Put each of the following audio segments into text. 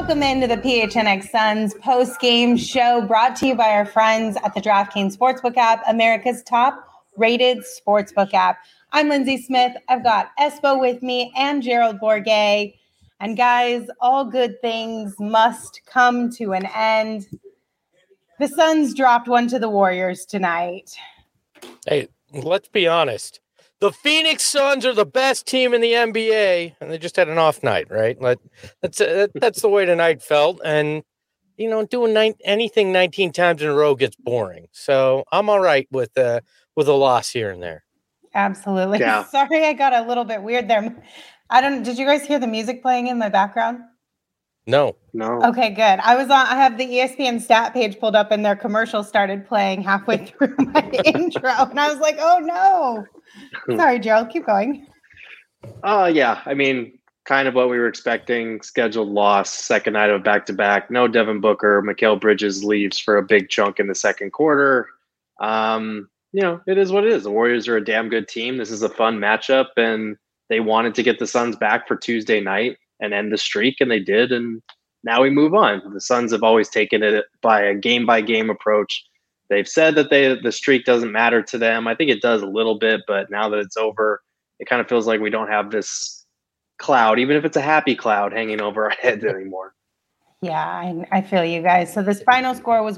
Welcome into the PHNX Suns post-game show brought to you by our friends at the DraftKings Sportsbook app, America's top-rated sportsbook app. I'm Lindsay Smith. I've got Espo with me and Gerald Bourguet. And guys, all good things must come to an end. The Suns dropped one to the Warriors tonight. Hey, let's be honest. The Phoenix Suns are the best team in the NBA, and they just had an off night, right? That's the way tonight felt. And, you know, doing anything 19 times in a row gets boring. So I'm all right with a loss here and there. Absolutely. Yeah. Sorry, I got a little bit weird there. Did you guys hear the music playing in my background? No. Okay, good. I have the ESPN stat page pulled up and their commercial started playing halfway through my intro. And I was like, oh no. Sorry, Gerald, keep going. Yeah. I mean, kind of what we were expecting. Scheduled loss, second night of back-to-back. No Devin Booker. Mikal Bridges leaves for a big chunk in the second quarter. You know, it is what it is. The Warriors are a damn good team. This is a fun matchup, and they wanted to get the Suns back for Tuesday night and end the streak, and they did, and now we move on. The Suns have always taken it by a game-by-game approach. They've said that the streak doesn't matter to them. I think it does a little bit, but now that it's over, it kind of feels like we don't have this cloud, even if it's a happy cloud, hanging over our heads anymore. Yeah, I feel you guys. So this final score was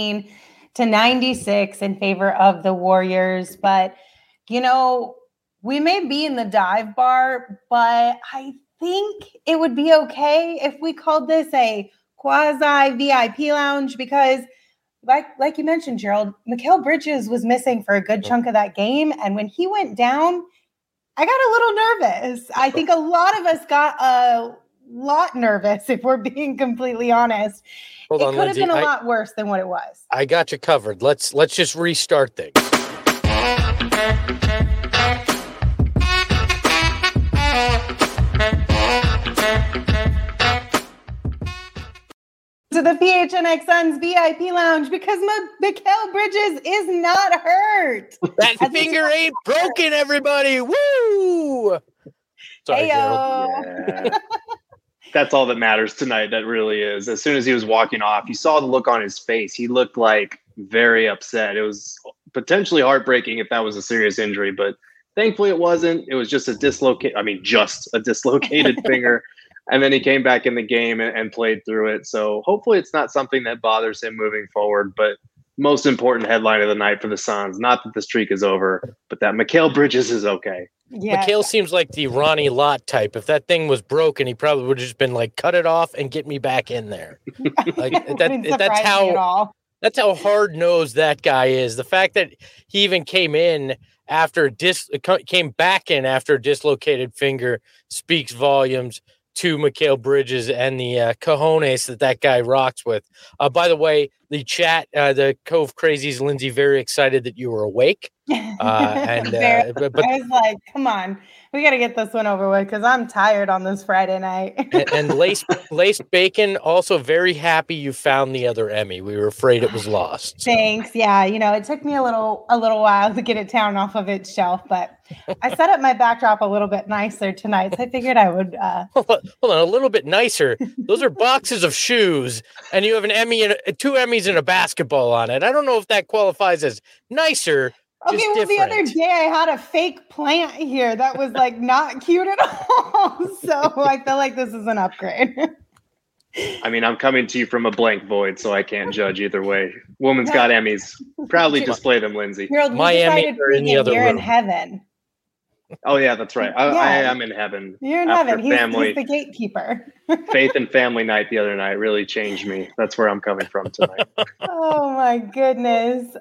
118-96 in favor of the Warriors, but, you know, we may be in the dive bar, but I think it would be okay if we called this a quasi VIP lounge because like you mentioned, Gerald, Mikal Bridges was missing for a good chunk of that game. And when he went down, I got a little nervous. I think a lot of us got a lot nervous, if we're being completely honest. It could have been a lot worse than what it was. I got you covered. Let's just restart things. To the PHNX Suns VIP Lounge because Mikal Bridges is not hurt. That finger ain't broken, everybody. Woo! Sorry, Gerald. Yeah. That's all that matters tonight. That really is. As soon as he was walking off, you saw the look on his face. He looked like very upset. It was potentially heartbreaking if that was a serious injury, but thankfully it wasn't. It was just a dislocated finger. And then he came back in the game and played through it. So hopefully it's not something that bothers him moving forward. But most important headline of the night for the Suns, not that the streak is over, but that Mikal Bridges is okay. Yeah. Mikal seems like the Ronnie Lott type. If that thing was broken, he probably would have just been like, cut it off and get me back in there. Like that's how hard-nosed that guy is. The fact that he even came back in after a dislocated finger speaks volumes to Mikal Bridges and the cojones that guy rocks with. By the way, the chat, the Cove Crazies, Lindsay, very excited that you were awake. I was like, come on, we got to get this one over with because I'm tired on this Friday night. and Laced Bacon, also very happy you found the other Emmy. We were afraid it was lost. So. Thanks. Yeah, you know, it took me a little while to get it down off of its shelf, but I set up my backdrop a little bit nicer tonight, so I figured I would. Hold on, a little bit nicer. Those are boxes of shoes, and you have an Emmy and two Emmys and a basketball on it. I don't know if that qualifies as nicer. Okay, well, the other day I had a fake plant here that was like not cute at all. So I feel like this is an upgrade. I mean, I'm coming to you from a blank void, so I can't judge either way. Woman's got Emmys. Proudly display them, Lindsay. My Emmys are in the other room. You're in heaven. Oh, yeah, that's right. I am in heaven. You're in heaven. He's the gatekeeper. Faith and family night the other night really changed me. That's where I'm coming from tonight. Oh, my goodness.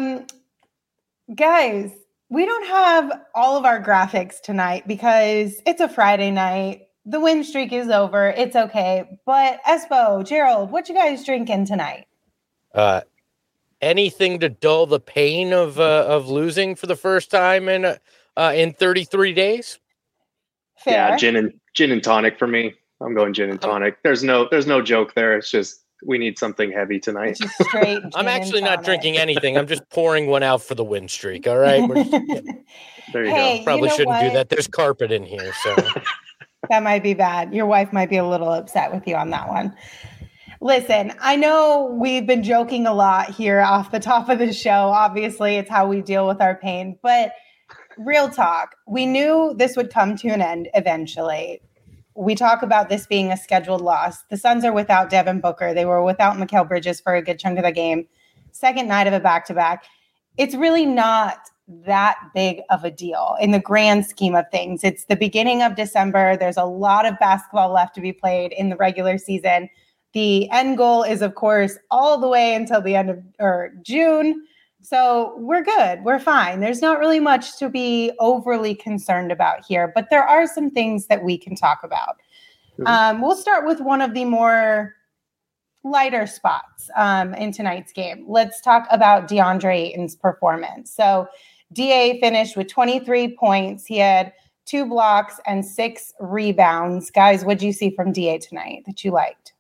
Guys, we don't have all of our graphics tonight because it's a Friday night. The win streak is over. It's okay. But Espo, Gerald, what you guys drinking tonight? Anything to dull the pain of losing for the first time in 33 days. Fair. Yeah, gin and tonic for me. I'm going gin and tonic. There's no joke there. It's just we need something heavy tonight. Just straight. I'm actually not drinking anything. I'm just pouring one out for the win streak. All right. There you Hey, go. Probably you know shouldn't do what? that. There's carpet in here, so. That might be bad. Your wife might be a little upset with you on that one. Listen, I know we've been joking a lot here off the top of the show. Obviously, it's how we deal with our pain. But real talk, we knew this would come to an end eventually. We talk about this being a scheduled loss. The Suns are without Devin Booker. They were without Mikal Bridges for a good chunk of the game. Second night of a back-to-back. It's really not that big of a deal in the grand scheme of things. It's the beginning of December. There's a lot of basketball left to be played in the regular season. The end goal is, of course, all the way until the end of June. So we're good. We're fine. There's not really much to be overly concerned about here, but there are some things that we can talk about. We'll start with one of the more lighter spots in tonight's game. Let's talk about DeAndre Ayton's performance. So DA finished with 23 points. He had 2 blocks and 6 rebounds. Guys, what did you see from DA tonight that you liked?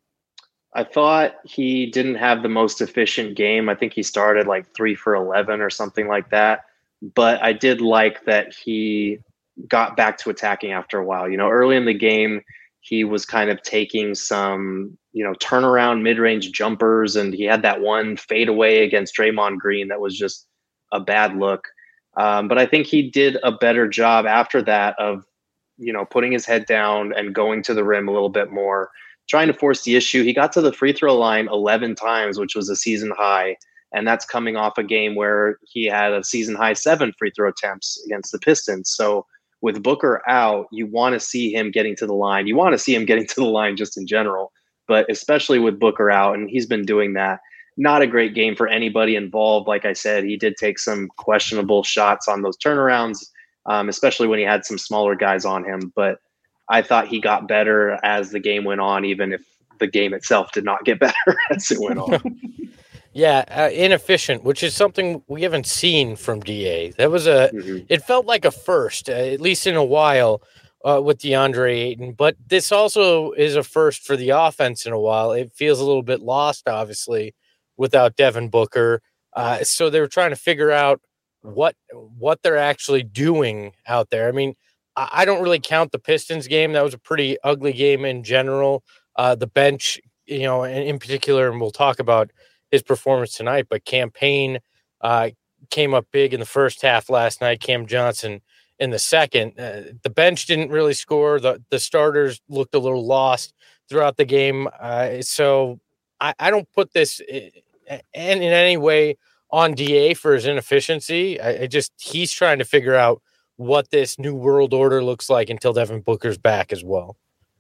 I thought he didn't have the most efficient game. I think he started like 3 for 11 or something like that. But I did like that he got back to attacking after a while. You know, early in the game, he was kind of taking some, turnaround mid-range jumpers, and he had that one fadeaway against Draymond Green that was just a bad look. But I think he did a better job after that of, putting his head down and going to the rim a little bit more, trying to force the issue. He got to the free throw line 11 times, which was a season high. And that's coming off a game where he had a season high 7 free throw attempts against the Pistons. So with Booker out, you want to see him getting to the line. You want to see him getting to the line just in general, but especially with Booker out, and he's been doing that. Not a great game for anybody involved. Like I said, he did take some questionable shots on those turnarounds, especially when he had some smaller guys on him. But I thought he got better as the game went on, even if the game itself did not get better as it went on. Yeah, inefficient, which is something we haven't seen from DA. That was it felt like a first, at least in a while, with DeAndre Ayton. But this also is a first for the offense in a while. It feels a little bit lost, obviously, without Devin Booker. So they were trying to figure out what they're actually doing out there. I mean, I don't really count the Pistons game. That was a pretty ugly game in general. The bench, in particular, and we'll talk about his performance tonight, but Cam Payne came up big in the first half last night. Cam Johnson in the second. The bench didn't really score. The starters looked a little lost throughout the game. So I don't put this in any way on DA for his inefficiency. He's trying to figure out what this new world order looks like until Devin Booker's back as well.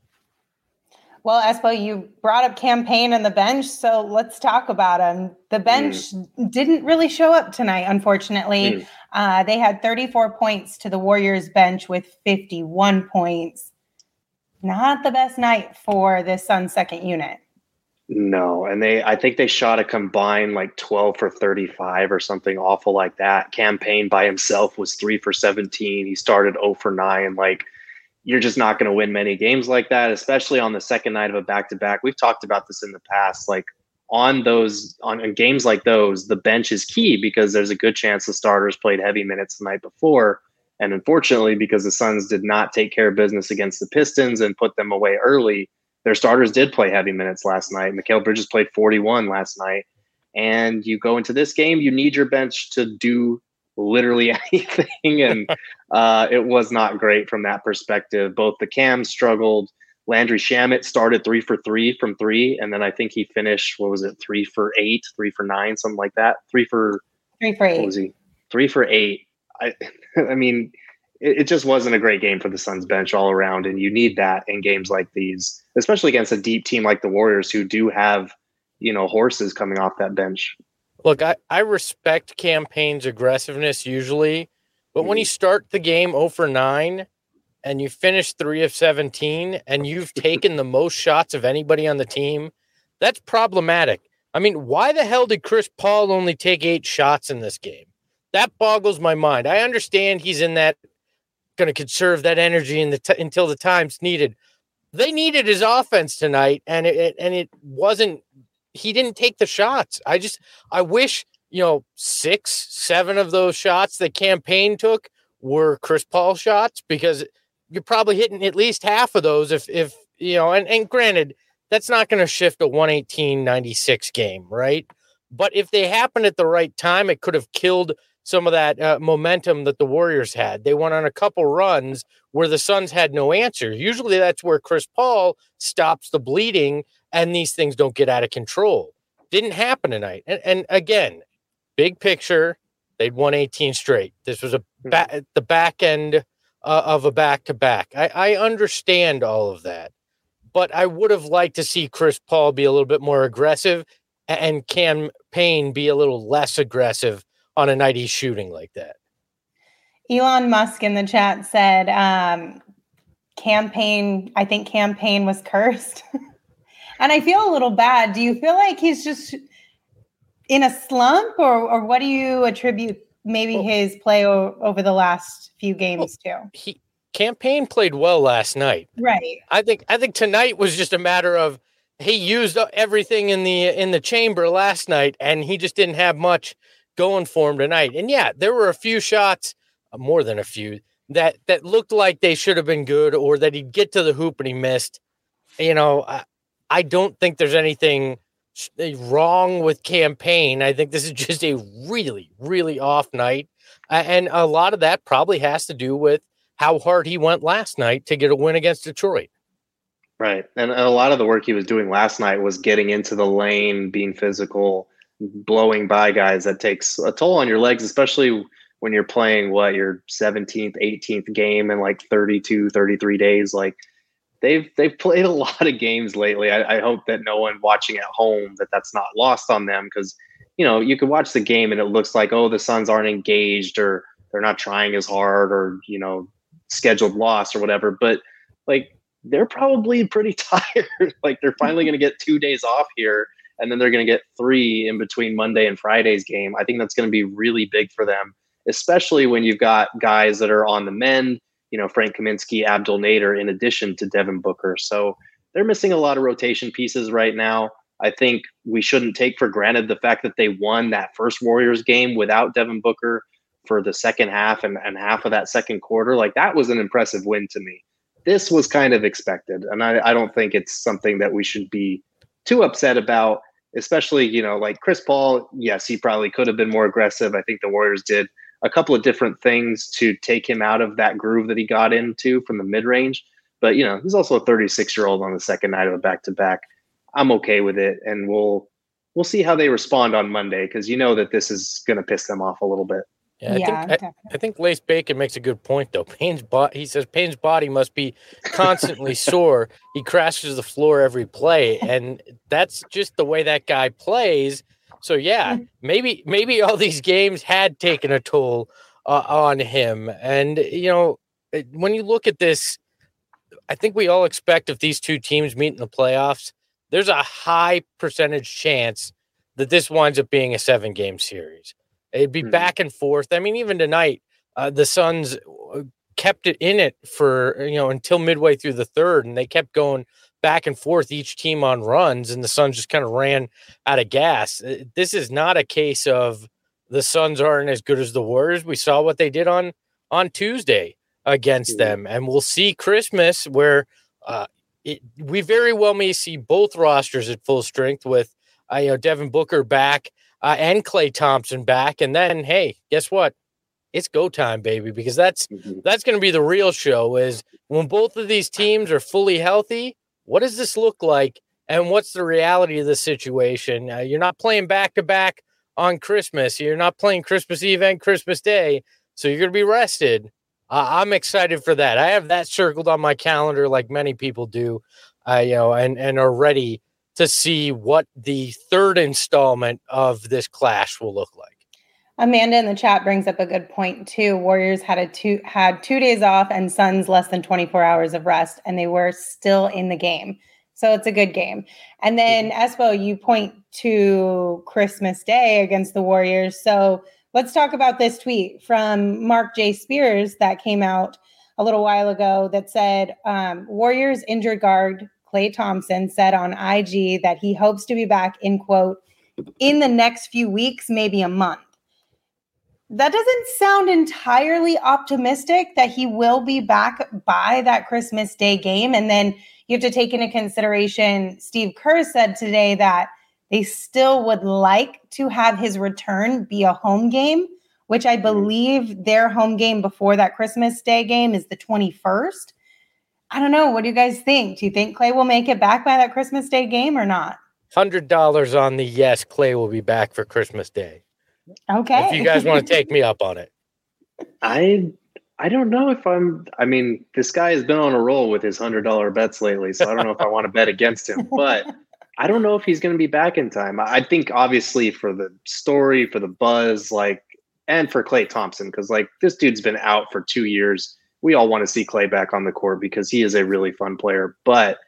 Well, Espo, you brought up Cam Payne and the bench, so let's talk about him. The bench didn't really show up tonight, unfortunately. They had 34 points to the Warriors bench with 51 points. Not the best night for this Suns second unit. No, and I think they shot a combined like 12 for 35 or something awful like that. Cam Payne by himself was 3 for 17. He started 0 for 9. Like, you're just not going to win many games like that, especially on the second night of a back-to-back. We've talked about this in the past. Like, on games like those, the bench is key because there's a good chance the starters played heavy minutes the night before. And unfortunately, because the Suns did not take care of business against the Pistons and put them away early, their starters did play heavy minutes last night. Mikal Bridges played 41 last night. And you go into this game, you need your bench to do literally anything. And it was not great from that perspective. Both the Cams struggled. Landry Shamet started 3 for 3 from 3. And then I think he finished, 3 for 8, 3 for 9, something like that. 3 for 8. What was he? 3 for 8. I mean, it just wasn't a great game for the Suns bench all around. And you need that in games like these, especially against a deep team like the Warriors who do have, horses coming off that bench. Look, I respect Cam Payne's aggressiveness usually, but when you start the game 0 for 9 and you finish 3 of 17 and you've taken the most shots of anybody on the team, that's problematic. I mean, why the hell did Chris Paul only take 8 shots in this game? That boggles my mind. I understand he's in that, going to conserve that energy until the time's needed. They needed his offense tonight, and it wasn't. He didn't take the shots. I wish 6, 7 of those shots that Cam Payne took were Chris Paul shots, because you're probably hitting at least half of those if and granted, that's not going to shift a 118-96 game, right? But if they happen at the right time, it could have killed some of that momentum that the Warriors had. They went on a couple runs where the Suns had no answer. Usually that's where Chris Paul stops the bleeding and these things don't get out of control. Didn't happen tonight. And again, big picture, they'd won 18 straight. This was the back end of a back-to-back. I understand all of that, but I would have liked to see Chris Paul be a little bit more aggressive and Cam Payne be a little less aggressive on a night he's shooting like that. Elon Musk in the chat said, Cam Payne was cursed. And I feel a little bad. Do you feel like he's just in a slump, or what do you attribute maybe his play over the last few games to? Cam Payne played well last night. Right. I think tonight was just a matter of he used everything in the chamber last night, and he just didn't have much going for him tonight. And yeah, there were a few shots, more than a few, that looked like they should have been good, or that he'd get to the hoop and he missed. I don't think there's anything wrong with Cam Payne. I think this is just a really, really off night. And a lot of that probably has to do with how hard he went last night to get a win against Detroit. Right. And a lot of the work he was doing last night was getting into the lane, being physical, blowing by guys. That takes a toll on your legs, especially when you're playing your 17th, 18th game in like 32, 33 days. Like they've played a lot of games lately. I hope that no one watching at home that's not lost on them, because you could watch the game and it looks like, oh, the Suns aren't engaged, or they're not trying as hard, or scheduled loss or whatever. But like they're probably pretty tired. Like they're finally going to get 2 days off here, and then they're going to get 3 in between Monday and Friday's game. I think that's going to be really big for them, especially when you've got guys that are on the mend, Frank Kaminsky, Abdel Nader, in addition to Devin Booker. So they're missing a lot of rotation pieces right now. I think we shouldn't take for granted the fact that they won that first Warriors game without Devin Booker for the second half and half of that second quarter. Like that was an impressive win to me. This was kind of expected. And I don't think it's something that we should be too upset about, especially, like Chris Paul. Yes, he probably could have been more aggressive. I think the Warriors did a couple of different things to take him out of that groove that he got into from the mid-range. But, he's also a 36-year-old on the second night of a back-to-back. I'm okay with it. And we'll see how they respond on Monday, because that this is going to piss them off a little bit. Yeah, I think Lace Bacon makes a good point, though. He says Payne's body must be constantly sore. He crashes the floor every play, and that's just the way that guy plays. So, yeah, maybe all these games had taken a toll on him. And, when you look at this, I think we all expect if these two teams meet in the playoffs, there's a high percentage chance that this winds up being a 7-game series. It'd be back and forth. I mean, even tonight, the Suns kept it in it for, until midway through the third, and they kept going back and forth, each team on runs, and the Suns just kind of ran out of gas. This is not a case of the Suns aren't as good as the Warriors. We saw what they did on Tuesday against them, and we'll see Christmas where we very well may see both rosters at full strength with Devin Booker back and Klay Thompson back, and then hey, guess what? It's go time, baby, because that's going to be the real show. Is when both of these teams are fully healthy. What does this look like, and what's the reality of the situation? You're not playing back-to-back on Christmas. You're not playing Christmas Eve and Christmas Day, so you're going to be rested. I'm excited for that. I have that circled on my calendar like many people do, and are ready to see what the third installment of this clash will look like. Amanda in the chat brings up a good point too. Warriors had 2 days off and Suns less than 24 hours of rest, and they were still in the game. So it's a good game. And then Espo, you point to Christmas Day against the Warriors. So let's talk about this tweet from Mark J. Spears that came out a little while ago that said, Warriors injured guard Klay Thompson said on IG that he hopes to be back in, quote, in the next few weeks, maybe a month. that doesn't sound entirely optimistic that he will be back by that Christmas Day game. And then you have to take into consideration, Steve Kerr said today that they still would like to have his return be a home game, which I believe their home game before that Christmas Day game is the 21st. I don't know. What do you guys think? Do you think Klay will make it back by that Christmas Day game or not? $100 on the yes, Klay will be back for Christmas Day. Okay. If you guys want to take me up on it. I don't know if this guy has been on a roll with his $100 bets lately, so I don't know if I want to bet against him, but I don't know if he's going to be back in time. I think obviously for the story, for the buzz, and for Klay Thompson, because this dude's been out for 2 years. We all want to see Klay back on the court because he is a really fun player, but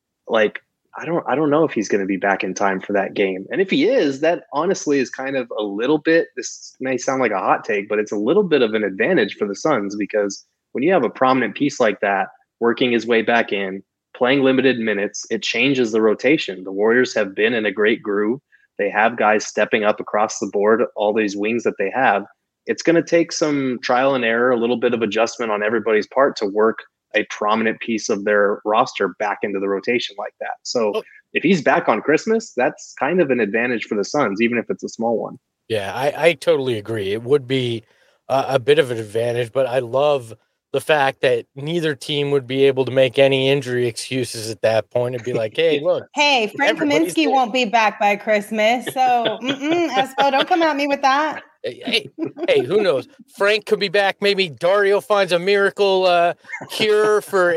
I don't know if he's going to be back in time for that game. And if he is, that honestly is kind of a little bit, this may sound like a hot take, but it's a little bit of an advantage for the Suns, because when you have a prominent piece like that working his way back in, playing limited minutes, it changes the rotation. The Warriors have been in a great groove. They have guys stepping up across the board, all these wings that they have. It's going to take some trial and error, a little bit of adjustment on everybody's part to work a prominent piece of their roster back into the rotation like that. So if he's back on Christmas, that's kind of an advantage for the Suns, even if it's a small one. Yeah, I totally agree. It would be a bit of an advantage, but I love the fact that neither team would be able to make any injury excuses at that point and be like, hey, look. Hey, Frank Kaminsky won't be back by Christmas. So, Espo, don't come at me with that. Hey, who knows? Frank could be back. Maybe Dario finds a miracle cure for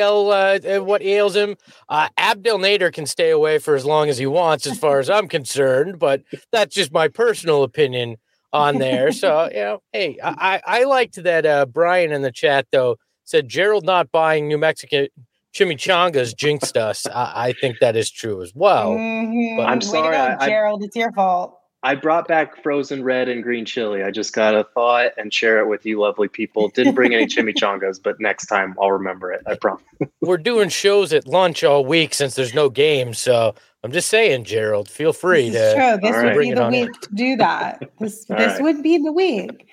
ACL, what ails him. Abdel Nader can stay away for as long as he wants, as far as I'm concerned, but that's just my personal opinion on there. So, hey, I liked that Brian in the chat, though, said Gerald not buying New Mexican chimichangas jinxed us. I think that is true as well. Mm-hmm. But I'm sorry, way to go, Gerald. It's your fault. I brought back frozen red and green chili. I just got to thaw it and share it with you lovely people. Didn't bring any chimichangas, but next time I'll remember it. I promise. We're doing shows at lunch all week since there's no games, so I'm just saying, Gerald, feel free This is true. This would bring be it the on week in. to do that. This right. would be the week.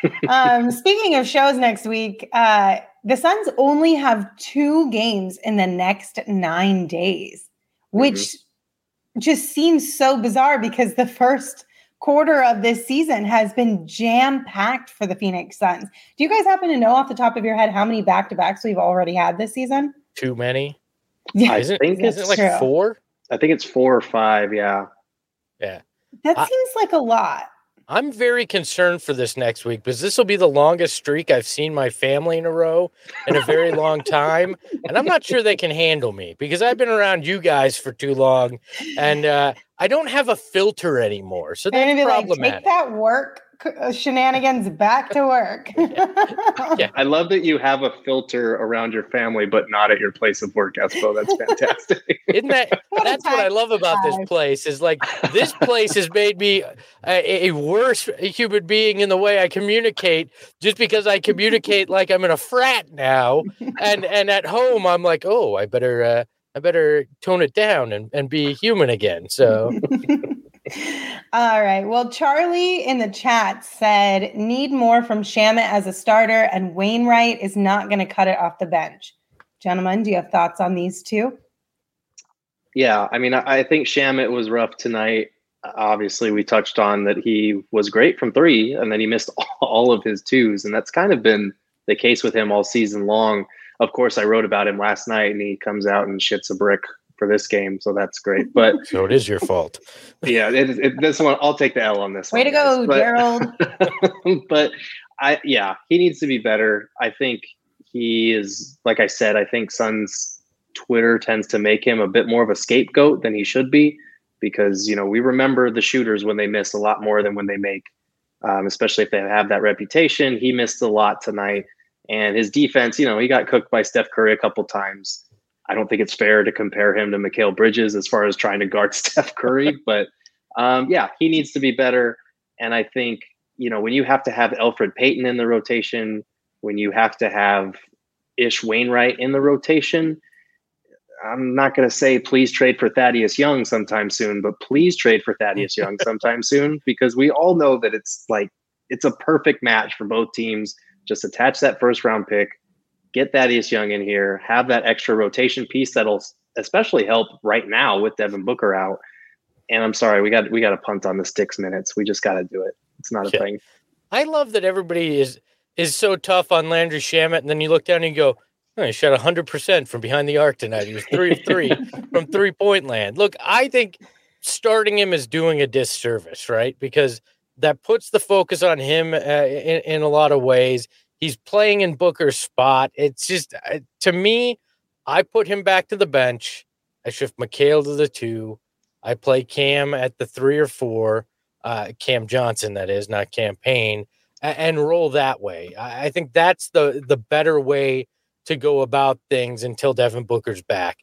Speaking of shows next week, the Suns only have 2 games in the next 9 days, which just seems so bizarre because the first quarter of this season has been jam-packed for the Phoenix Suns. Do you guys happen to know off the top of your head how many back-to-backs we've already had this season? Too many? Yeah, Isn't it like true. 4? I think it's 4 or 5. Yeah. Yeah. That seems like a lot. I'm very concerned for this next week because this will be the longest streak I've seen my family in a row in a very long time. And I'm not sure they can handle me because I've been around you guys for too long and I don't have a filter anymore. So that's problematic. Like, take that work shenanigans back to work. Yeah. I love that you have a filter around your family, but not at your place of work, Espo. That's fantastic. Isn't that's what I love about this place is like this place has made me a worse human being in the way I communicate just because I communicate like I'm in a frat now. And at home, I'm like, oh, I better tone it down and be human again. So. All right. Well, Charlie in the chat said, need more from Shamet as a starter, and Wainwright is not going to cut it off the bench. Gentlemen, do you have thoughts on these two? Yeah, I mean, I think Shamet was rough tonight. Obviously, we touched on that he was great from 3, and then he missed all of his 2s, and that's kind of been the case with him all season long. Of course, I wrote about him last night, and he comes out and shits a brick for this game, so that's great. But so it is your fault. Yeah, this one I'll take the L on this. Way to go, Gerald. But he needs to be better. I think he is, like I said, I think Suns Twitter tends to make him a bit more of a scapegoat than he should be because we remember the shooters when they miss a lot more than when they make, especially if they have that reputation. He missed a lot tonight, and his defense, he got cooked by Steph Curry a couple times. I don't think it's fair to compare him to Mikal Bridges as far as trying to guard Steph Curry, but he needs to be better. And I think, when you have to have Elfrid Payton in the rotation, when you have to have Ish Wainwright in the rotation, I'm not going to say please trade for Thaddeus Young sometime soon, but please trade for Thaddeus Young sometime soon, because we all know that it's like it's a perfect match for both teams. Just attach that first round pick, get Thaddeus Young in here, have that extra rotation piece that'll especially help right now with Devin Booker out. And I'm sorry, we got to punt on the sticks minutes. We just got to do it. It's not a thing. I love that everybody is so tough on Landry Shamet, and then you look down and you go, oh, he shot 100% from behind the arc tonight. He was 3 of 3 from 3-point land. Look, I think starting him is doing a disservice, right? Because that puts the focus on him in a lot of ways. He's playing in Booker's spot. It's just, to me, I put him back to the bench. I shift Mikal to the 2. I play Cam at the 3 or 4, Cam Johnson, that is, not Cam Payne, and roll that way. I think that's the better way to go about things until Devin Booker's back.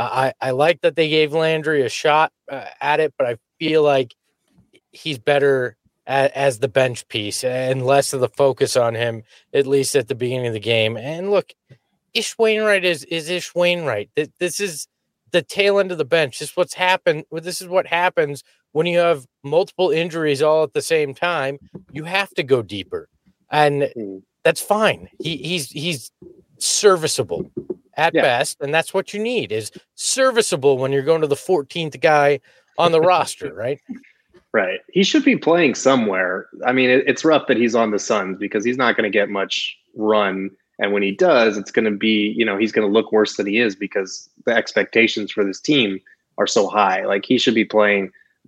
I like that they gave Landry a shot at it, but I feel like he's better as the bench piece and less of the focus on him, at least at the beginning of the game. And look, Ish Wainwright is Ish Wainwright. This is the tail end of the bench. This is what happens when you have multiple injuries all at the same time. You have to go deeper, and that's fine. He's serviceable at best, and that's what you need is serviceable when you're going to the 14th guy on the roster, right? Right. He should be playing somewhere. I mean, it's rough that he's on the Suns because he's not going to get much run. And when he does, it's going to be, he's going to look worse than he is because the expectations for this team are so high. Like, he should be playing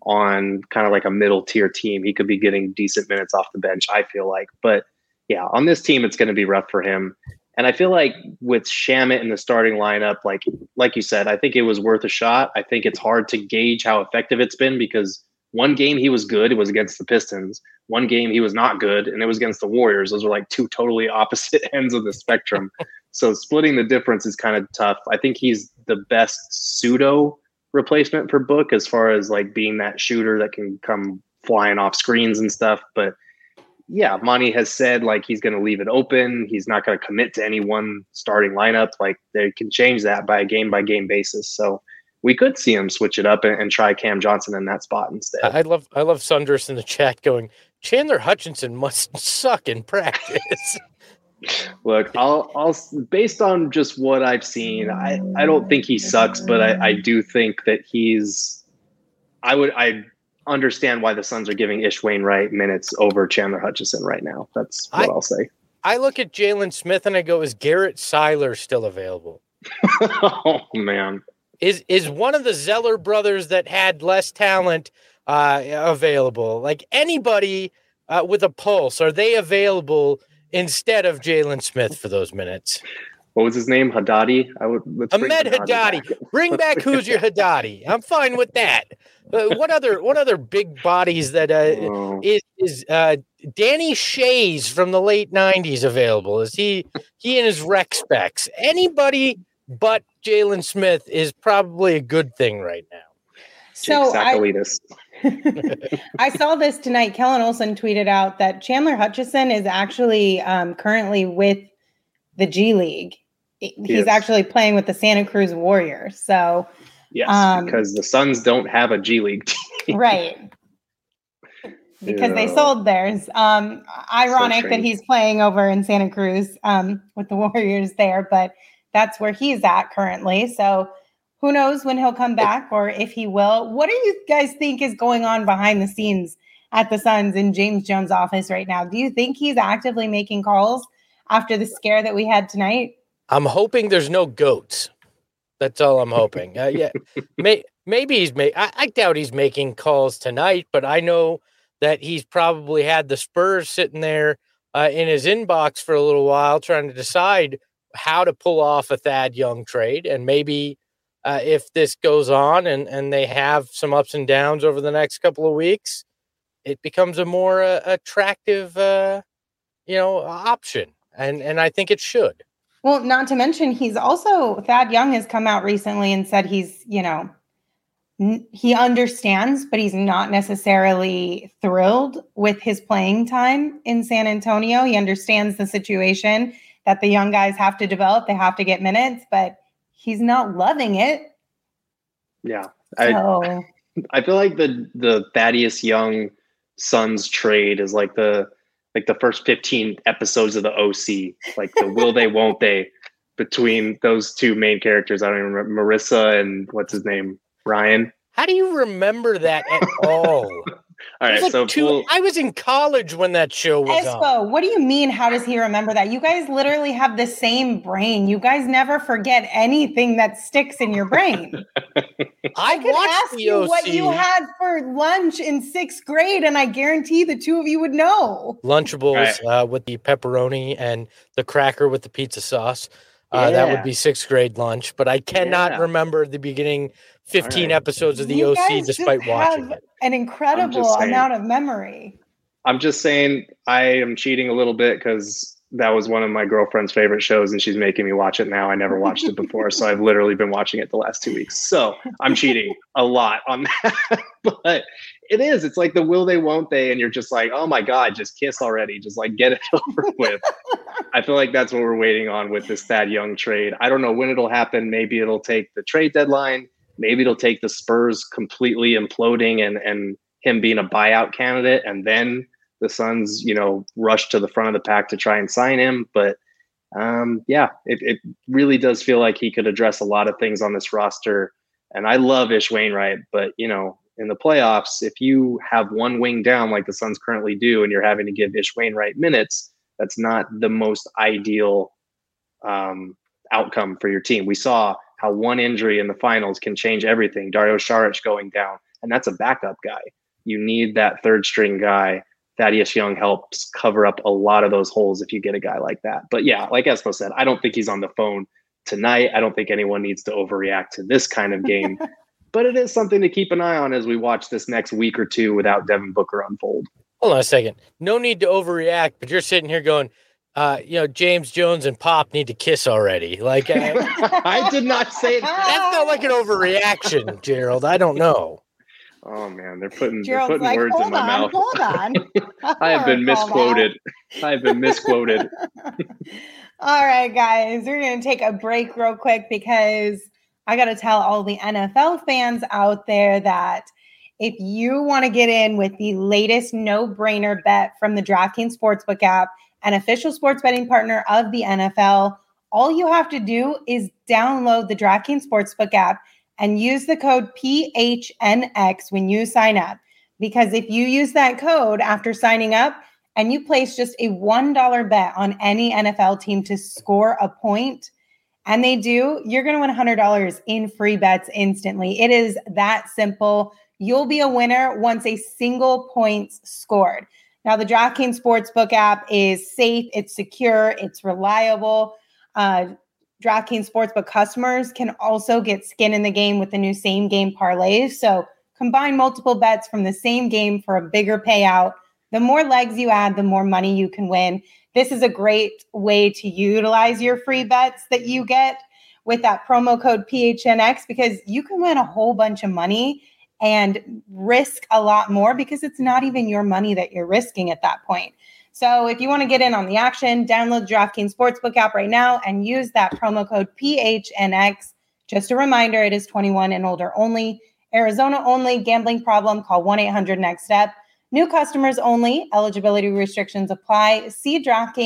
on kind of like a middle tier team. He could be getting decent minutes off the bench, I feel like. But yeah, on this team, it's going to be rough for him. And I feel like with Shamet in the starting lineup, like you said, I think it was worth a shot. I think it's hard to gauge how effective it's been because one game he was good, it was against the Pistons. One game he was not good, and it was against the Warriors. Those were like two totally opposite ends of the spectrum. So splitting the difference is kind of tough. I think he's the best pseudo replacement for Book as far as like being that shooter that can come flying off screens and stuff. But yeah, Monty has said like he's going to leave it open. He's not going to commit to any one starting lineup. Like they can change that by game basis. So we could see him switch it up and try Cam Johnson in that spot instead. I love Sunders in the chat going, Chandler Hutchinson must suck in practice. Look, I'll based on just what I've seen, I don't think he sucks, but I do think that I understand why the Suns are giving Ish Wainwright minutes over Chandler Hutchison right now. That's what I'll say. I look at Jalen Smith and I go, is Garrett Seiler still available? Oh, man. Is one of the Zeller brothers that had less talent available? Like anybody with a pulse, are they available instead of Jalen Smith for those minutes? What was his name? Haddadi? Ahmed Haddadi. Bring back Hoosier Haddadi. I'm fine with that. What other big bodies that is Danny Shays from the late 90s available? Is he and his rec specs? Anybody but Jalen Smith is probably a good thing right now. So I saw this tonight. Kellen Olson tweeted out that Chandler Hutchison is actually currently with the G League. He's actually playing with the Santa Cruz Warriors. So yes, because the Suns don't have a G League team. Right. Because they sold theirs. Ironic that he's playing over in Santa Cruz with the Warriors there, but that's where he's at currently. So who knows when he'll come back or if he will. What do you guys think is going on behind the scenes at the Suns in James Jones' office right now? Do you think he's actively making calls after the scare that we had tonight? I'm hoping there's no goats. That's all I'm hoping. Maybe he's I doubt he's making calls tonight, but I know that he's probably had the Spurs sitting there in his inbox for a little while trying to decide how to pull off a Thad Young trade. And maybe if this goes on and they have some ups and downs over the next couple of weeks, it becomes a more attractive, option. And I think it should. Well, not to mention, Thad Young has come out recently and said he's, he understands, but he's not necessarily thrilled with his playing time in San Antonio. He understands the situation that the young guys have to develop. They have to get minutes, but he's not loving it. Yeah. So. I feel like the Thaddeus Young Suns trade is like the like the first 15 episodes of the OC, like the will they, won't they between those two main characters. I don't even remember Marissa and what's his name? Ryan. How do you remember that at all? All right, I was in college when that show was on. What do you mean? How does he remember that? You guys literally have the same brain. You guys never forget anything that sticks in your brain. I could ask you what you had for lunch in 6th grade, and I guarantee the two of you would know. Lunchables with the pepperoni and the cracker with the pizza sauce. That would be 6th grade lunch, but I cannot remember the beginning 15 episodes of the OC despite watching it. An incredible amount of memory. I'm just saying I am cheating a little bit because that was one of my girlfriend's favorite shows and she's making me watch it now. I never watched it before, so I've literally been watching it the last 2 weeks. So I'm cheating a lot on that. But it's like the will they, won't they, and you're just like, oh my God, just kiss already. Just like get it over with. I feel like that's what we're waiting on with this Thad Young trade. I don't know when it'll happen. Maybe it'll take the trade deadline. Maybe it'll take the Spurs completely imploding and him being a buyout candidate. And then the Suns, rush to the front of the pack to try and sign him. But it really does feel like he could address a lot of things on this roster. And I love Ish Wainwright, but in the playoffs, if you have one wing down like the Suns currently do, and you're having to give Ish Wainwright minutes, that's not the most ideal outcome for your team. We saw how one injury in the finals can change everything. Dario Saric going down, and that's a backup guy. You need that third string guy. Thaddeus Young helps cover up a lot of those holes if you get a guy like that. But yeah, like Espo said, I don't think he's on the phone tonight. I don't think anyone needs to overreact to this kind of game. But it is something to keep an eye on as we watch this next week or two without Devin Booker unfold. Hold on a second. No need to overreact, but you're sitting here going, James Jones and Pop need to kiss already. Like I did not say that. That's not like an overreaction, Gerald. I don't know. Oh man, they're putting like, words in my mouth. Hold on. I have been misquoted. All right, guys, we're going to take a break real quick because I got to tell all the NFL fans out there that if you want to get in with the latest no-brainer bet from the DraftKings Sportsbook app, an official sports betting partner of the NFL, all you have to do is download the DraftKings Sportsbook app and use the code PHNX when you sign up. Because if you use that code after signing up and you place just a $1 bet on any NFL team to score a point, and they do, you're going to win $100 in free bets instantly. It is that simple. You'll be a winner once a single point's scored. Now, the DraftKings Sportsbook app is safe, it's secure, it's reliable. DraftKings Sportsbook customers can also get skin in the game with the new same game parlays. So combine multiple bets from the same game for a bigger payout. The more legs you add, the more money you can win. This is a great way to utilize your free bets that you get with that promo code PHNX because you can win a whole bunch of money and risk a lot more because it's not even your money that you're risking at that point. So if you want to get in on the action, download the DraftKings Sportsbook app right now and use that promo code PHNX. Just a reminder, it is 21 and older only. Arizona only. Gambling problem, call 1-800-NEXT-STEP. New customers only. Eligibility restrictions apply. See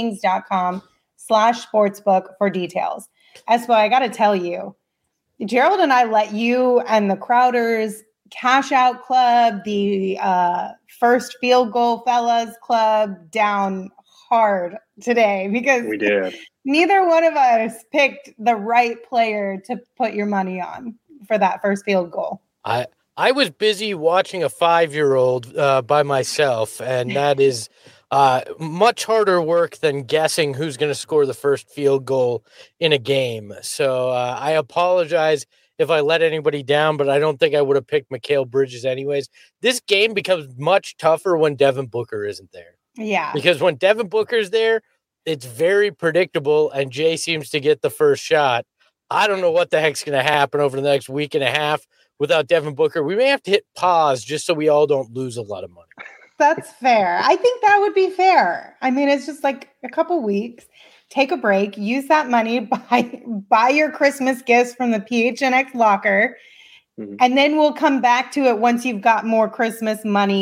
DraftKings.com/sportsbook for details. Espo, I got to tell you, Gerald and I let you and the Crowders Cash Out Club, the First Field Goal Fellas Club down hard today because we did. Neither one of us picked the right player to put your money on for that first field goal. I was busy watching a 5-year-old by myself, and that is much harder work than guessing who's going to score the first field goal in a game. So I apologize if I let anybody down, but I don't think I would have picked Mikal Bridges anyways. This game becomes much tougher when Devin Booker isn't there. Yeah. Because when Devin Booker's there, it's very predictable, and Jay seems to get the first shot. I don't know what the heck's going to happen over the next week and a half without Devin Booker. We may have to hit pause just so we all don't lose a lot of money. That's fair. I think that would be fair. I mean, it's just like a couple weeks. Take a break. Use that money. Buy your Christmas gifts from the PHNX locker. Mm-hmm. And then we'll come back to it once you've got more Christmas money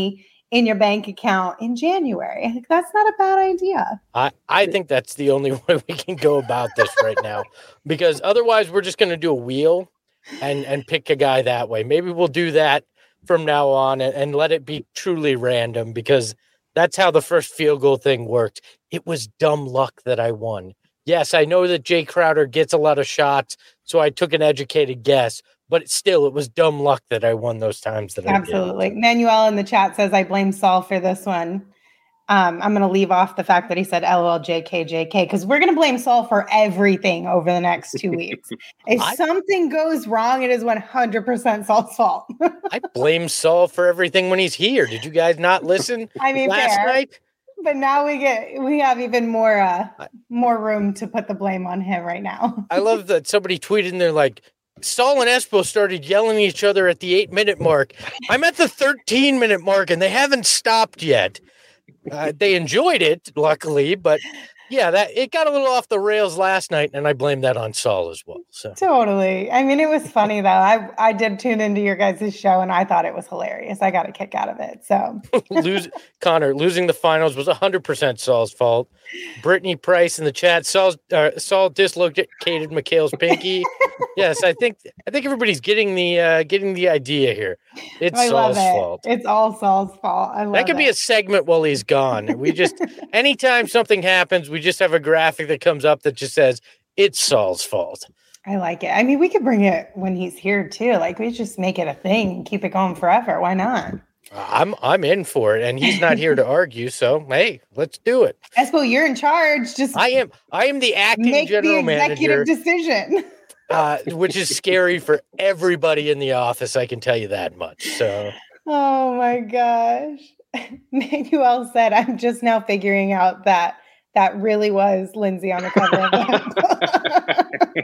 in your bank account in January. I think that's not a bad idea. I think that's the only way we can go about this right now, because otherwise we're just going to do a wheel and pick a guy that way. Maybe we'll do that from now on and let it be truly random, because that's how the first field goal thing worked. It was dumb luck that I won. Yes, I know that Jay Crowder gets a lot of shots, so I took an educated guess, but it was dumb luck that I won those times that Absolutely. I did. Manuel in the chat says, I blame Saul for this one. I'm going to leave off the fact that he said LOL JK, because we're going to blame Saul for everything over the next 2 weeks. If something goes wrong, it is 100% Saul's fault. I blame Saul for everything when he's here. Did you guys not listen last night? But now we have even more room to put the blame on him right now. I love that somebody tweeted in there like, Saul and Espo started yelling at each other at the 8-minute mark. I'm at the 13-minute mark and they haven't stopped yet. They enjoyed it, luckily, but yeah, it got a little off the rails last night, and I blame that on Saul as well. So totally. I mean, it was funny though. I did tune into your guys' show, and I thought it was hilarious. I got a kick out of it. So Connor, losing the finals was 100% Saul's fault. Brittany Price in the chat, Saul dislocated Mikhail's pinky. Yes, I think everybody's getting the idea here. It's Saul's fault. It's all Saul's fault. I love that. Could be a segment while he's gone. We just anytime something happens, we just have a graphic that comes up that just says it's Saul's fault. I like it. I mean, we could bring it when he's here too. Like we just make it a thing and keep it going forever. Why not? I'm in for it, and he's not here to argue. So hey, let's do it. Espo, you're in charge. Just I am the acting general manager. Make the executive decision. Which is scary for everybody in the office. I can tell you that much. So. Oh my gosh. Manuel said, I'm just now figuring out that really was Lindsay on the cover of the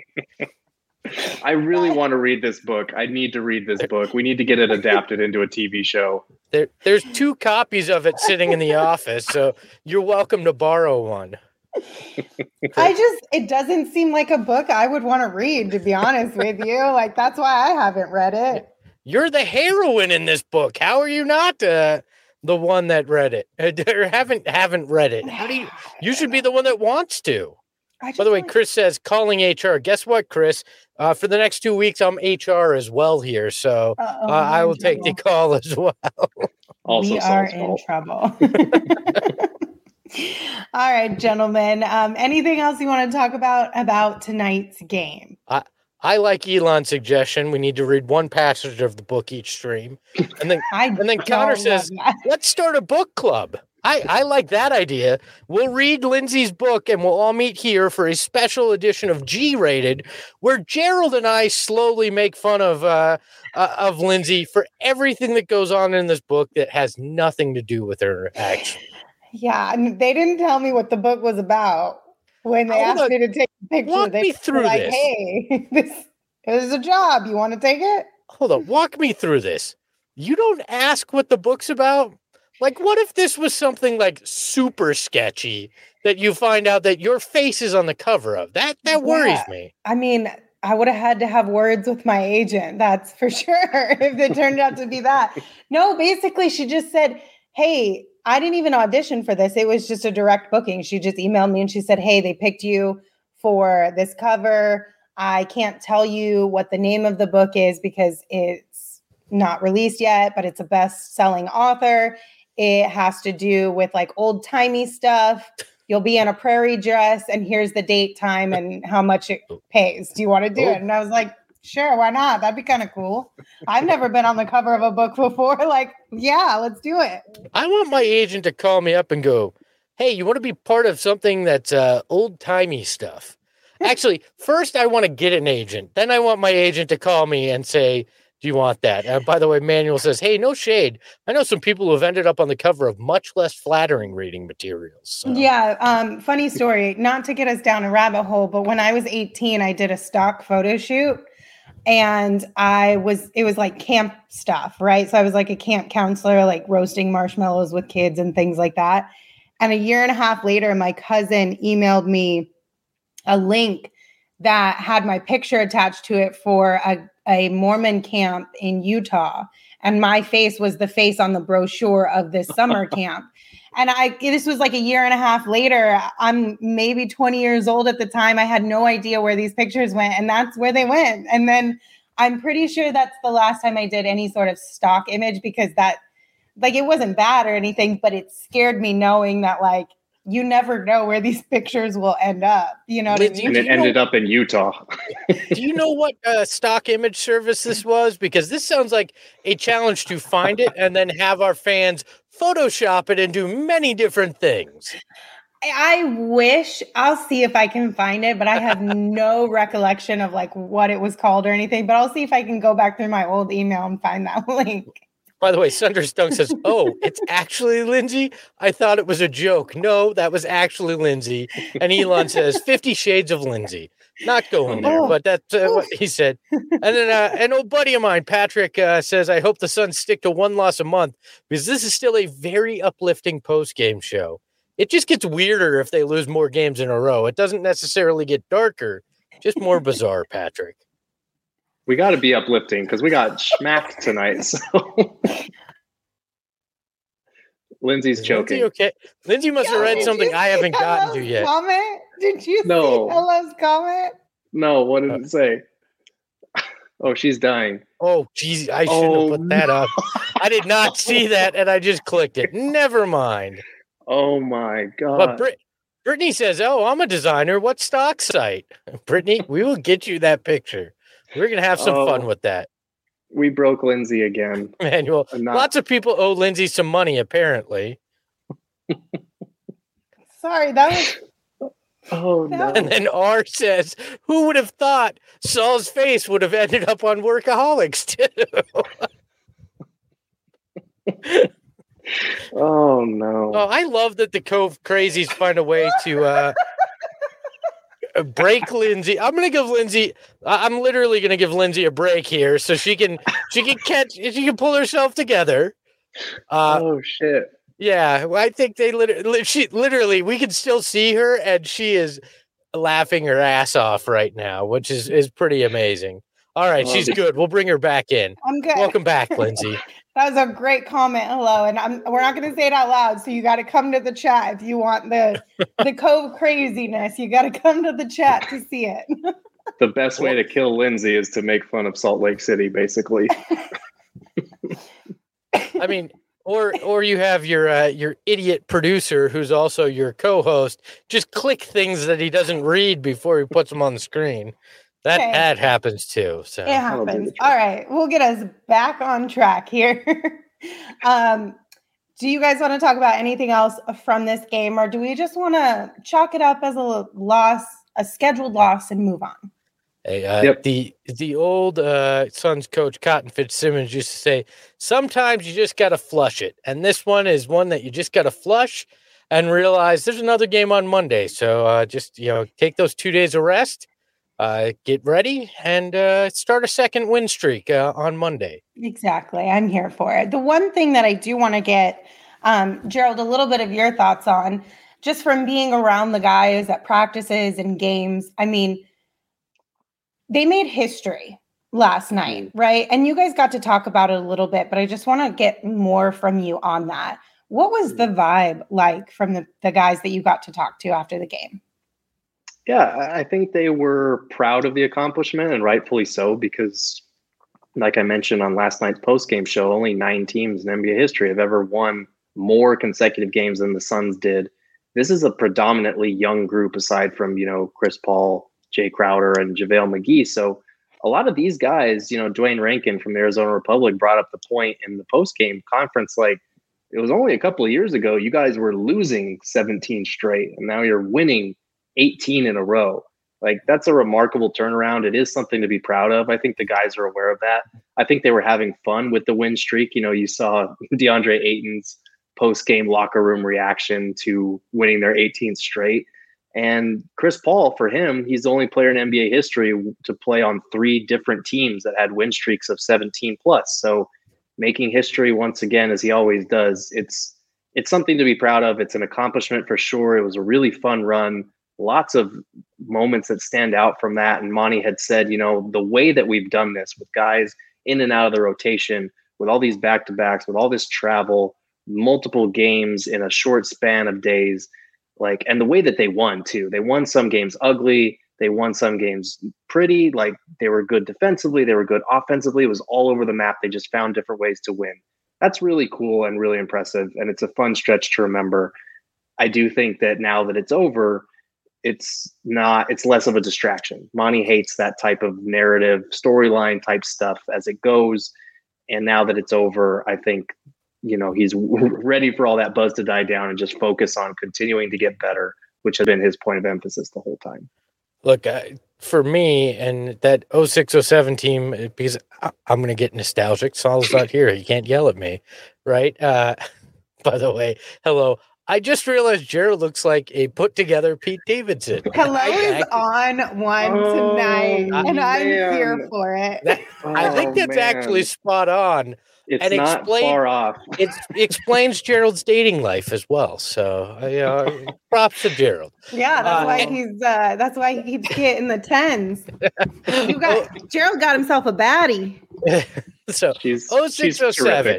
I really want to read this book. I need to read this book. We need to get it adapted into a TV show. There's 2 copies of it sitting in the office, so you're welcome to borrow one. It doesn't seem like a book I would want to read, to be honest with you. Like, that's why I haven't read it. You're the heroine in this book. How are you not the one that read it or haven't read it? How do you should be the one that wants to. By the way, Chris says calling HR. Guess what, Chris? For the next 2 weeks, I'm HR as well here, so I will take the call as well. Also, we are in trouble. All right, gentlemen. Anything else you want to talk about tonight's game? I like Elon's suggestion. We need to read one passage of the book each stream. And then Connor says, let's start a book club. I like that idea. We'll read Lindsay's book and we'll all meet here for a special edition of G-Rated, where Gerald and I slowly make fun of Lindsay for everything that goes on in this book that has nothing to do with her action. Yeah, and they didn't tell me what the book was about when they asked me to take a picture. Walk me through this. Hey, this is a job. You want to take it? Hold on. Walk me through this. You don't ask what the book's about? Like, what if this was something like super sketchy that you find out that your face is on the cover of? That worries me. I mean, I would have had to have words with my agent. That's for sure. If it turned out to be that. No, basically she just said, hey, I didn't even audition for this. It was just a direct booking. She just emailed me and she said, hey, they picked you for this cover. I can't tell you what the name of the book is because it's not released yet, but it's a best-selling author. It has to do with like old-timey stuff. You'll be in a prairie dress and here's the date, time, and how much it pays. Do you want to do it? And I was like, sure, why not? That'd be kind of cool. I've never been on the cover of a book before. Like, yeah, let's do it. I want my agent to call me up and go, hey, you want to be part of something that's old-timey stuff? Actually, first I want to get an agent. Then I want my agent to call me and say, do you want that? By the way, Manuel says, hey, no shade. I know some people who have ended up on the cover of much less flattering reading materials. So. Yeah. Funny story, not to get us down a rabbit hole, but when I was 18, I did a stock photo shoot and it was like camp stuff, right? So I was like a camp counselor, like roasting marshmallows with kids and things like that. And a year and a half later, my cousin emailed me a link that had my picture attached to it for a Mormon camp in Utah. And my face was the face on the brochure of this summer camp. And this was like a year and a half later. I'm maybe 20 years old at the time. I had no idea where these pictures went, and that's where they went. And then I'm pretty sure that's the last time I did any sort of stock image, because that, like, it wasn't bad or anything, but it scared me knowing that, like, you never know where these pictures will end up. You know what I mean? And it ended up in Utah. Do you know what stock image service this was? Because this sounds like a challenge to find it and then have our fans Photoshop it and do many different things. I wish. I'll see if I can find it, but I have no recollection of like what it was called or anything. But I'll see if I can go back through my old email and find that link. By the way, Sunders Dunk says, "Oh, it's actually Lindsay. I thought it was a joke. No, that was actually Lindsay." And Elon says, 50 Shades of Lindsay. Not going there, but that's what he said. And then an old buddy of mine, Patrick, says, "I hope the Suns stick to one loss a month, because this is still a very uplifting post-game show. It just gets weirder if they lose more games in a row. It doesn't necessarily get darker, just more bizarre." Patrick. We got to be uplifting because we got smacked tonight. So Lindsay's choking. Lindsay, okay. Lindsay must have read something I haven't gotten to yet. Comment? Did you see Ella's comment? No, what did it say? Oh, she's dying. Oh, geez, I shouldn't have put that up. I did not see that, and I just clicked it. Never mind. Oh, my God. But Brittany says, "Oh, I'm a designer. What stock site?" Brittany, we will get you that picture. We're going to have some fun with that. We broke Lindsay again. Manuel, lots of people owe Lindsay some money, apparently. Sorry, that was... Oh, no. And then R says, "Who would have thought Saul's face would have ended up on Workaholics, too?" Oh, no. Oh, I love that the Cove Crazies find a way to... break Lindsay. I'm literally going to give Lindsay a break here so she can pull herself together. Oh shit. Yeah, I think literally we can still see her, and she is laughing her ass off right now, which is pretty amazing. All right, she's good. We'll bring her back in. I'm good. Welcome back, Lindsay. That was a great comment. Hello. And we're not going to say it out loud. So you got to come to the chat. If you want the Cove craziness, you got to come to the chat to see it. The best way to kill Lindsay is to make fun of Salt Lake City, basically. I mean, or you have your idiot producer who's also your co-host just click things that he doesn't read before he puts them on the screen. That happens too. So it happens. All right. We'll get us back on track here. Do you guys want to talk about anything else from this game, or do we just want to chalk it up as a loss, a scheduled loss, and move on? Hey, the old Suns coach Cotton Fitzsimmons used to say, sometimes you just got to flush it. And this one is one that you just got to flush and realize there's another game on Monday. So just, take those 2 days of rest. Get ready and start a second win streak on Monday. Exactly. I'm here for it. The one thing that I do want to get, Gerald, a little bit of your thoughts on, just from being around the guys at practices and games. I mean, they made history last night, right? And you guys got to talk about it a little bit, but I just want to get more from you on that. What was the vibe like from the guys that you got to talk to after the game? Yeah, I think they were proud of the accomplishment, and rightfully so, because like I mentioned on last night's post-game show, only 9 teams in NBA history have ever won more consecutive games than the Suns did. This is a predominantly young group aside from, Chris Paul, Jay Crowder, and JaVale McGee. So a lot of these guys, Dwayne Rankin from the Arizona Republic brought up the point in the post-game conference, like, it was only a couple of years ago, you guys were losing 17 straight, and now you're winning 18 in a row. Like, that's a remarkable turnaround. It is something to be proud of. I think the guys are aware of that. I think they were having fun with the win streak. You saw DeAndre Ayton's post-game locker room reaction to winning their 18th straight. And Chris Paul, for him, he's the only player in NBA history to play on 3 different teams that had win streaks of 17 plus. So making history once again, as he always does, it's something to be proud of. It's an accomplishment for sure. It was a really fun run. Lots of moments that stand out from that. And Monty had said, the way that we've done this with guys in and out of the rotation, with all these back-to-backs, with all this travel, multiple games in a short span of days, and the way that they won too. They won some games ugly. They won some games pretty. They were good defensively. They were good offensively. It was all over the map. They just found different ways to win. That's really cool and really impressive. And it's a fun stretch to remember. I do think that now that it's over, it's less of a distraction. Monty hates that type of narrative, storyline type stuff as it goes. And now that it's over, I think, he's ready for all that buzz to die down and just focus on continuing to get better, which has been his point of emphasis the whole time. Look, for me and that 06-07 team, because I'm going to get nostalgic. Saul's not here. He can't yell at me, right? By the way, hello. I just realized Gerald looks like a put-together Pete Davidson. Hello is on one tonight, and I'm here for it. I think that's actually spot on. It's not far off. It explains Gerald's dating life as well. So, props to Gerald. Yeah, that's why he keeps getting the 10s. Gerald got himself a baddie. So, 06-07.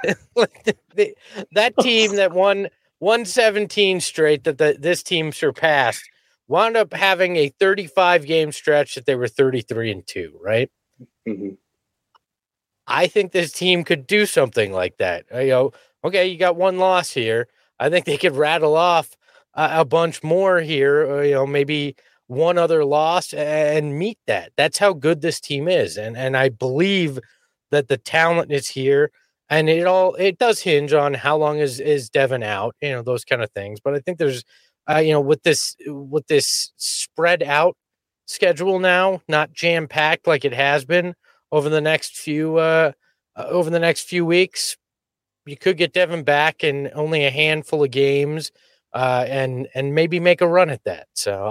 That team that won 117 straight that this team surpassed wound up having a 35 game stretch that they were 33-2, right? Mm-hmm. I think this team could do something like that. Okay, you got one loss here. I think they could rattle off a bunch more here, maybe one other loss and meet that. That's how good this team is. And I believe that the talent is here. And it does hinge on how long is Devin out, those kind of things. But I think there's, with this spread out schedule now, not jam packed like it has been over the next few weeks, you could get Devin back in only a handful of games, and maybe make a run at that. So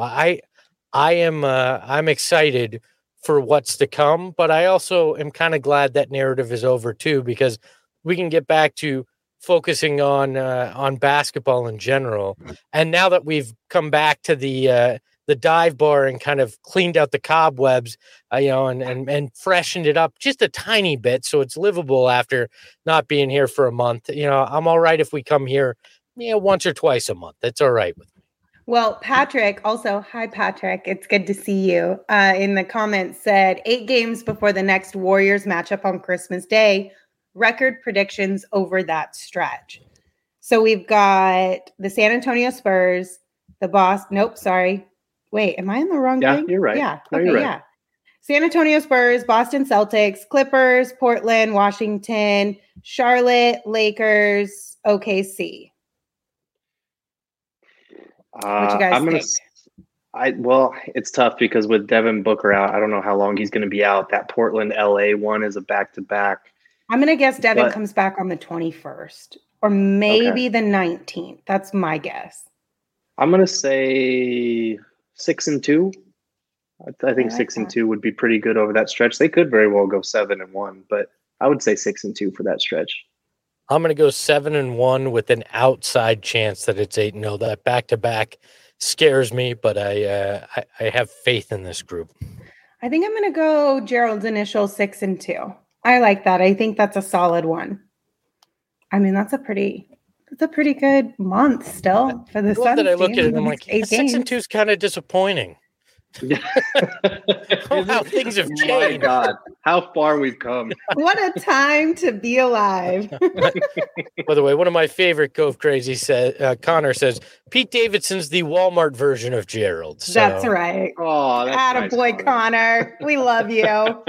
I'm excited for what's to come, but I also am kind of glad that narrative is over too, because we can get back to focusing on basketball in general. And now that we've come back to the dive bar and kind of cleaned out the cobwebs, and freshened it up just a tiny bit so it's livable after not being here for a month. I'm all right if we come here, once or twice a month. That's all right with me. Well, Patrick, also, hi, Patrick. It's good to see you. In the comments said 8 games before the next Warriors matchup on Christmas Day. Record predictions over that stretch. So we've got the San Antonio Spurs, the Boston. Nope, sorry. Wait, am I in the wrong thing? Yeah, you're right. Yeah. No, okay, you're right. yeah. San Antonio Spurs, Boston Celtics, Clippers, Portland, Washington, Charlotte, Lakers, OKC. What you guys think? It's tough because with Devin Booker out, I don't know how long he's going to be out. That Portland LA one is a back-to-back. I'm going to guess Devin comes back on the 21st or maybe the 19th. That's my guess. I'm going to say 6-2. I think 6-2 would be pretty good over that stretch. They could very well go 7-1, but I would say 6-2 for that stretch. I'm going to go 7-1 with an outside chance that it's 8-0. That back-to-back scares me, but I have faith in this group. I think I'm going to go Gerald's initial 6-2. I like that. I think that's a solid one. I mean, that's a pretty good month still for the Suns. I look at it and I'm like, 6-2 is kind of disappointing. How things have changed. Oh my God, how far we've come. What a time to be alive. By the way, one of my favorite Cove Crazy Connor says, Pete Davidson's the Walmart version of Gerald. So. That's right. Oh, that's attaboy, nice, Connor. We love you.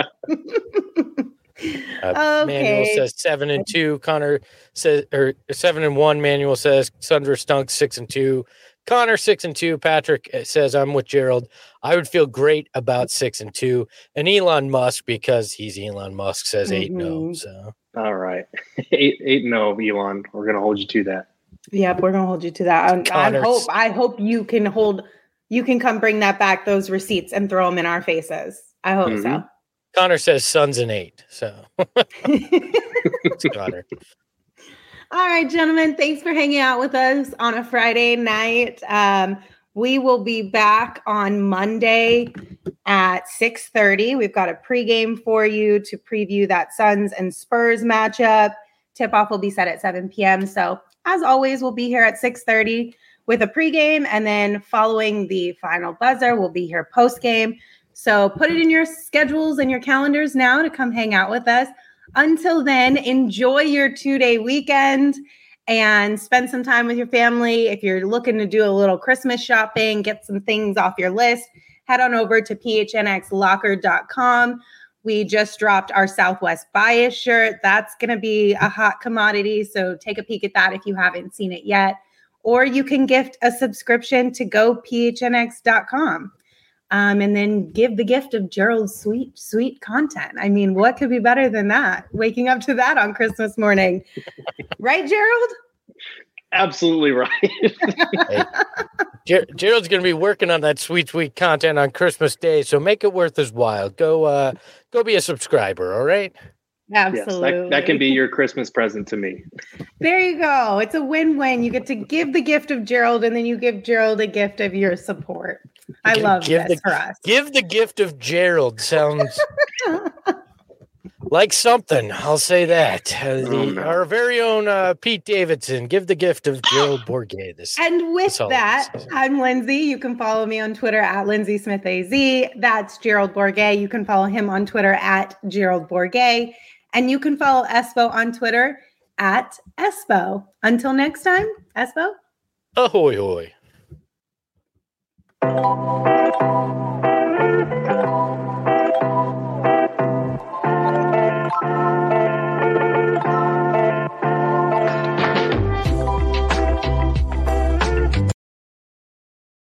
Okay. Manuel says 7-2. Connor says, or 7-1. Manuel says Sundra stunk 6-2. Connor 6-2. Patrick says I'm with Gerald. I would feel great about 6-2. And Elon Musk, because he's Elon Musk, says 8-0. So all right, 8-0, Elon. We're gonna hold you to that. Yep, we're gonna hold you to that. I hope you can come bring that back, those receipts, and throw them in our faces. I hope so. Connor says Suns an 8. So it's Connor. All right, gentlemen. Thanks for hanging out with us on a Friday night. We will be back on Monday at 6:30. We've got a pregame for you to preview that Suns and Spurs matchup. Tip-off will be set at 7 p.m. So as always, we'll be here at 6:30 with a pregame, and then following the final buzzer, we'll be here postgame. So put it in your schedules and your calendars now to come hang out with us. Until then, enjoy your 2-day weekend and spend some time with your family. If you're looking to do a little Christmas shopping, get some things off your list, head on over to phnxlocker.com. We just dropped our Southwest Bias shirt. That's going to be a hot commodity, so take a peek at that if you haven't seen it yet. Or you can gift a subscription to gophnx.com. And then give the gift of Gerald's sweet, sweet content. I mean, what could be better than that? Waking up to that on Christmas morning. Right, Gerald? Absolutely right. Hey, Gerald's going to be working on that sweet, sweet content on Christmas Day, so make it worth his while. Go be a subscriber, all right? Absolutely. Yes, that can be your Christmas present to me. There you go. It's a win-win. You get to give the gift of Gerald, and then you give Gerald a gift of your support. I love this for us. Give the gift of Gerald sounds like something. I'll say that. Our very own Pete Davidson. Give the gift of Gerald Bourguet. And with that, I'm Lindsay. You can follow me on Twitter at LindsaySmithAZ. That's Gerald Bourguet. You can follow him on Twitter at Gerald Bourguet. And you can follow Espo on Twitter at Espo. Until next time, Espo. Ahoy, hoy.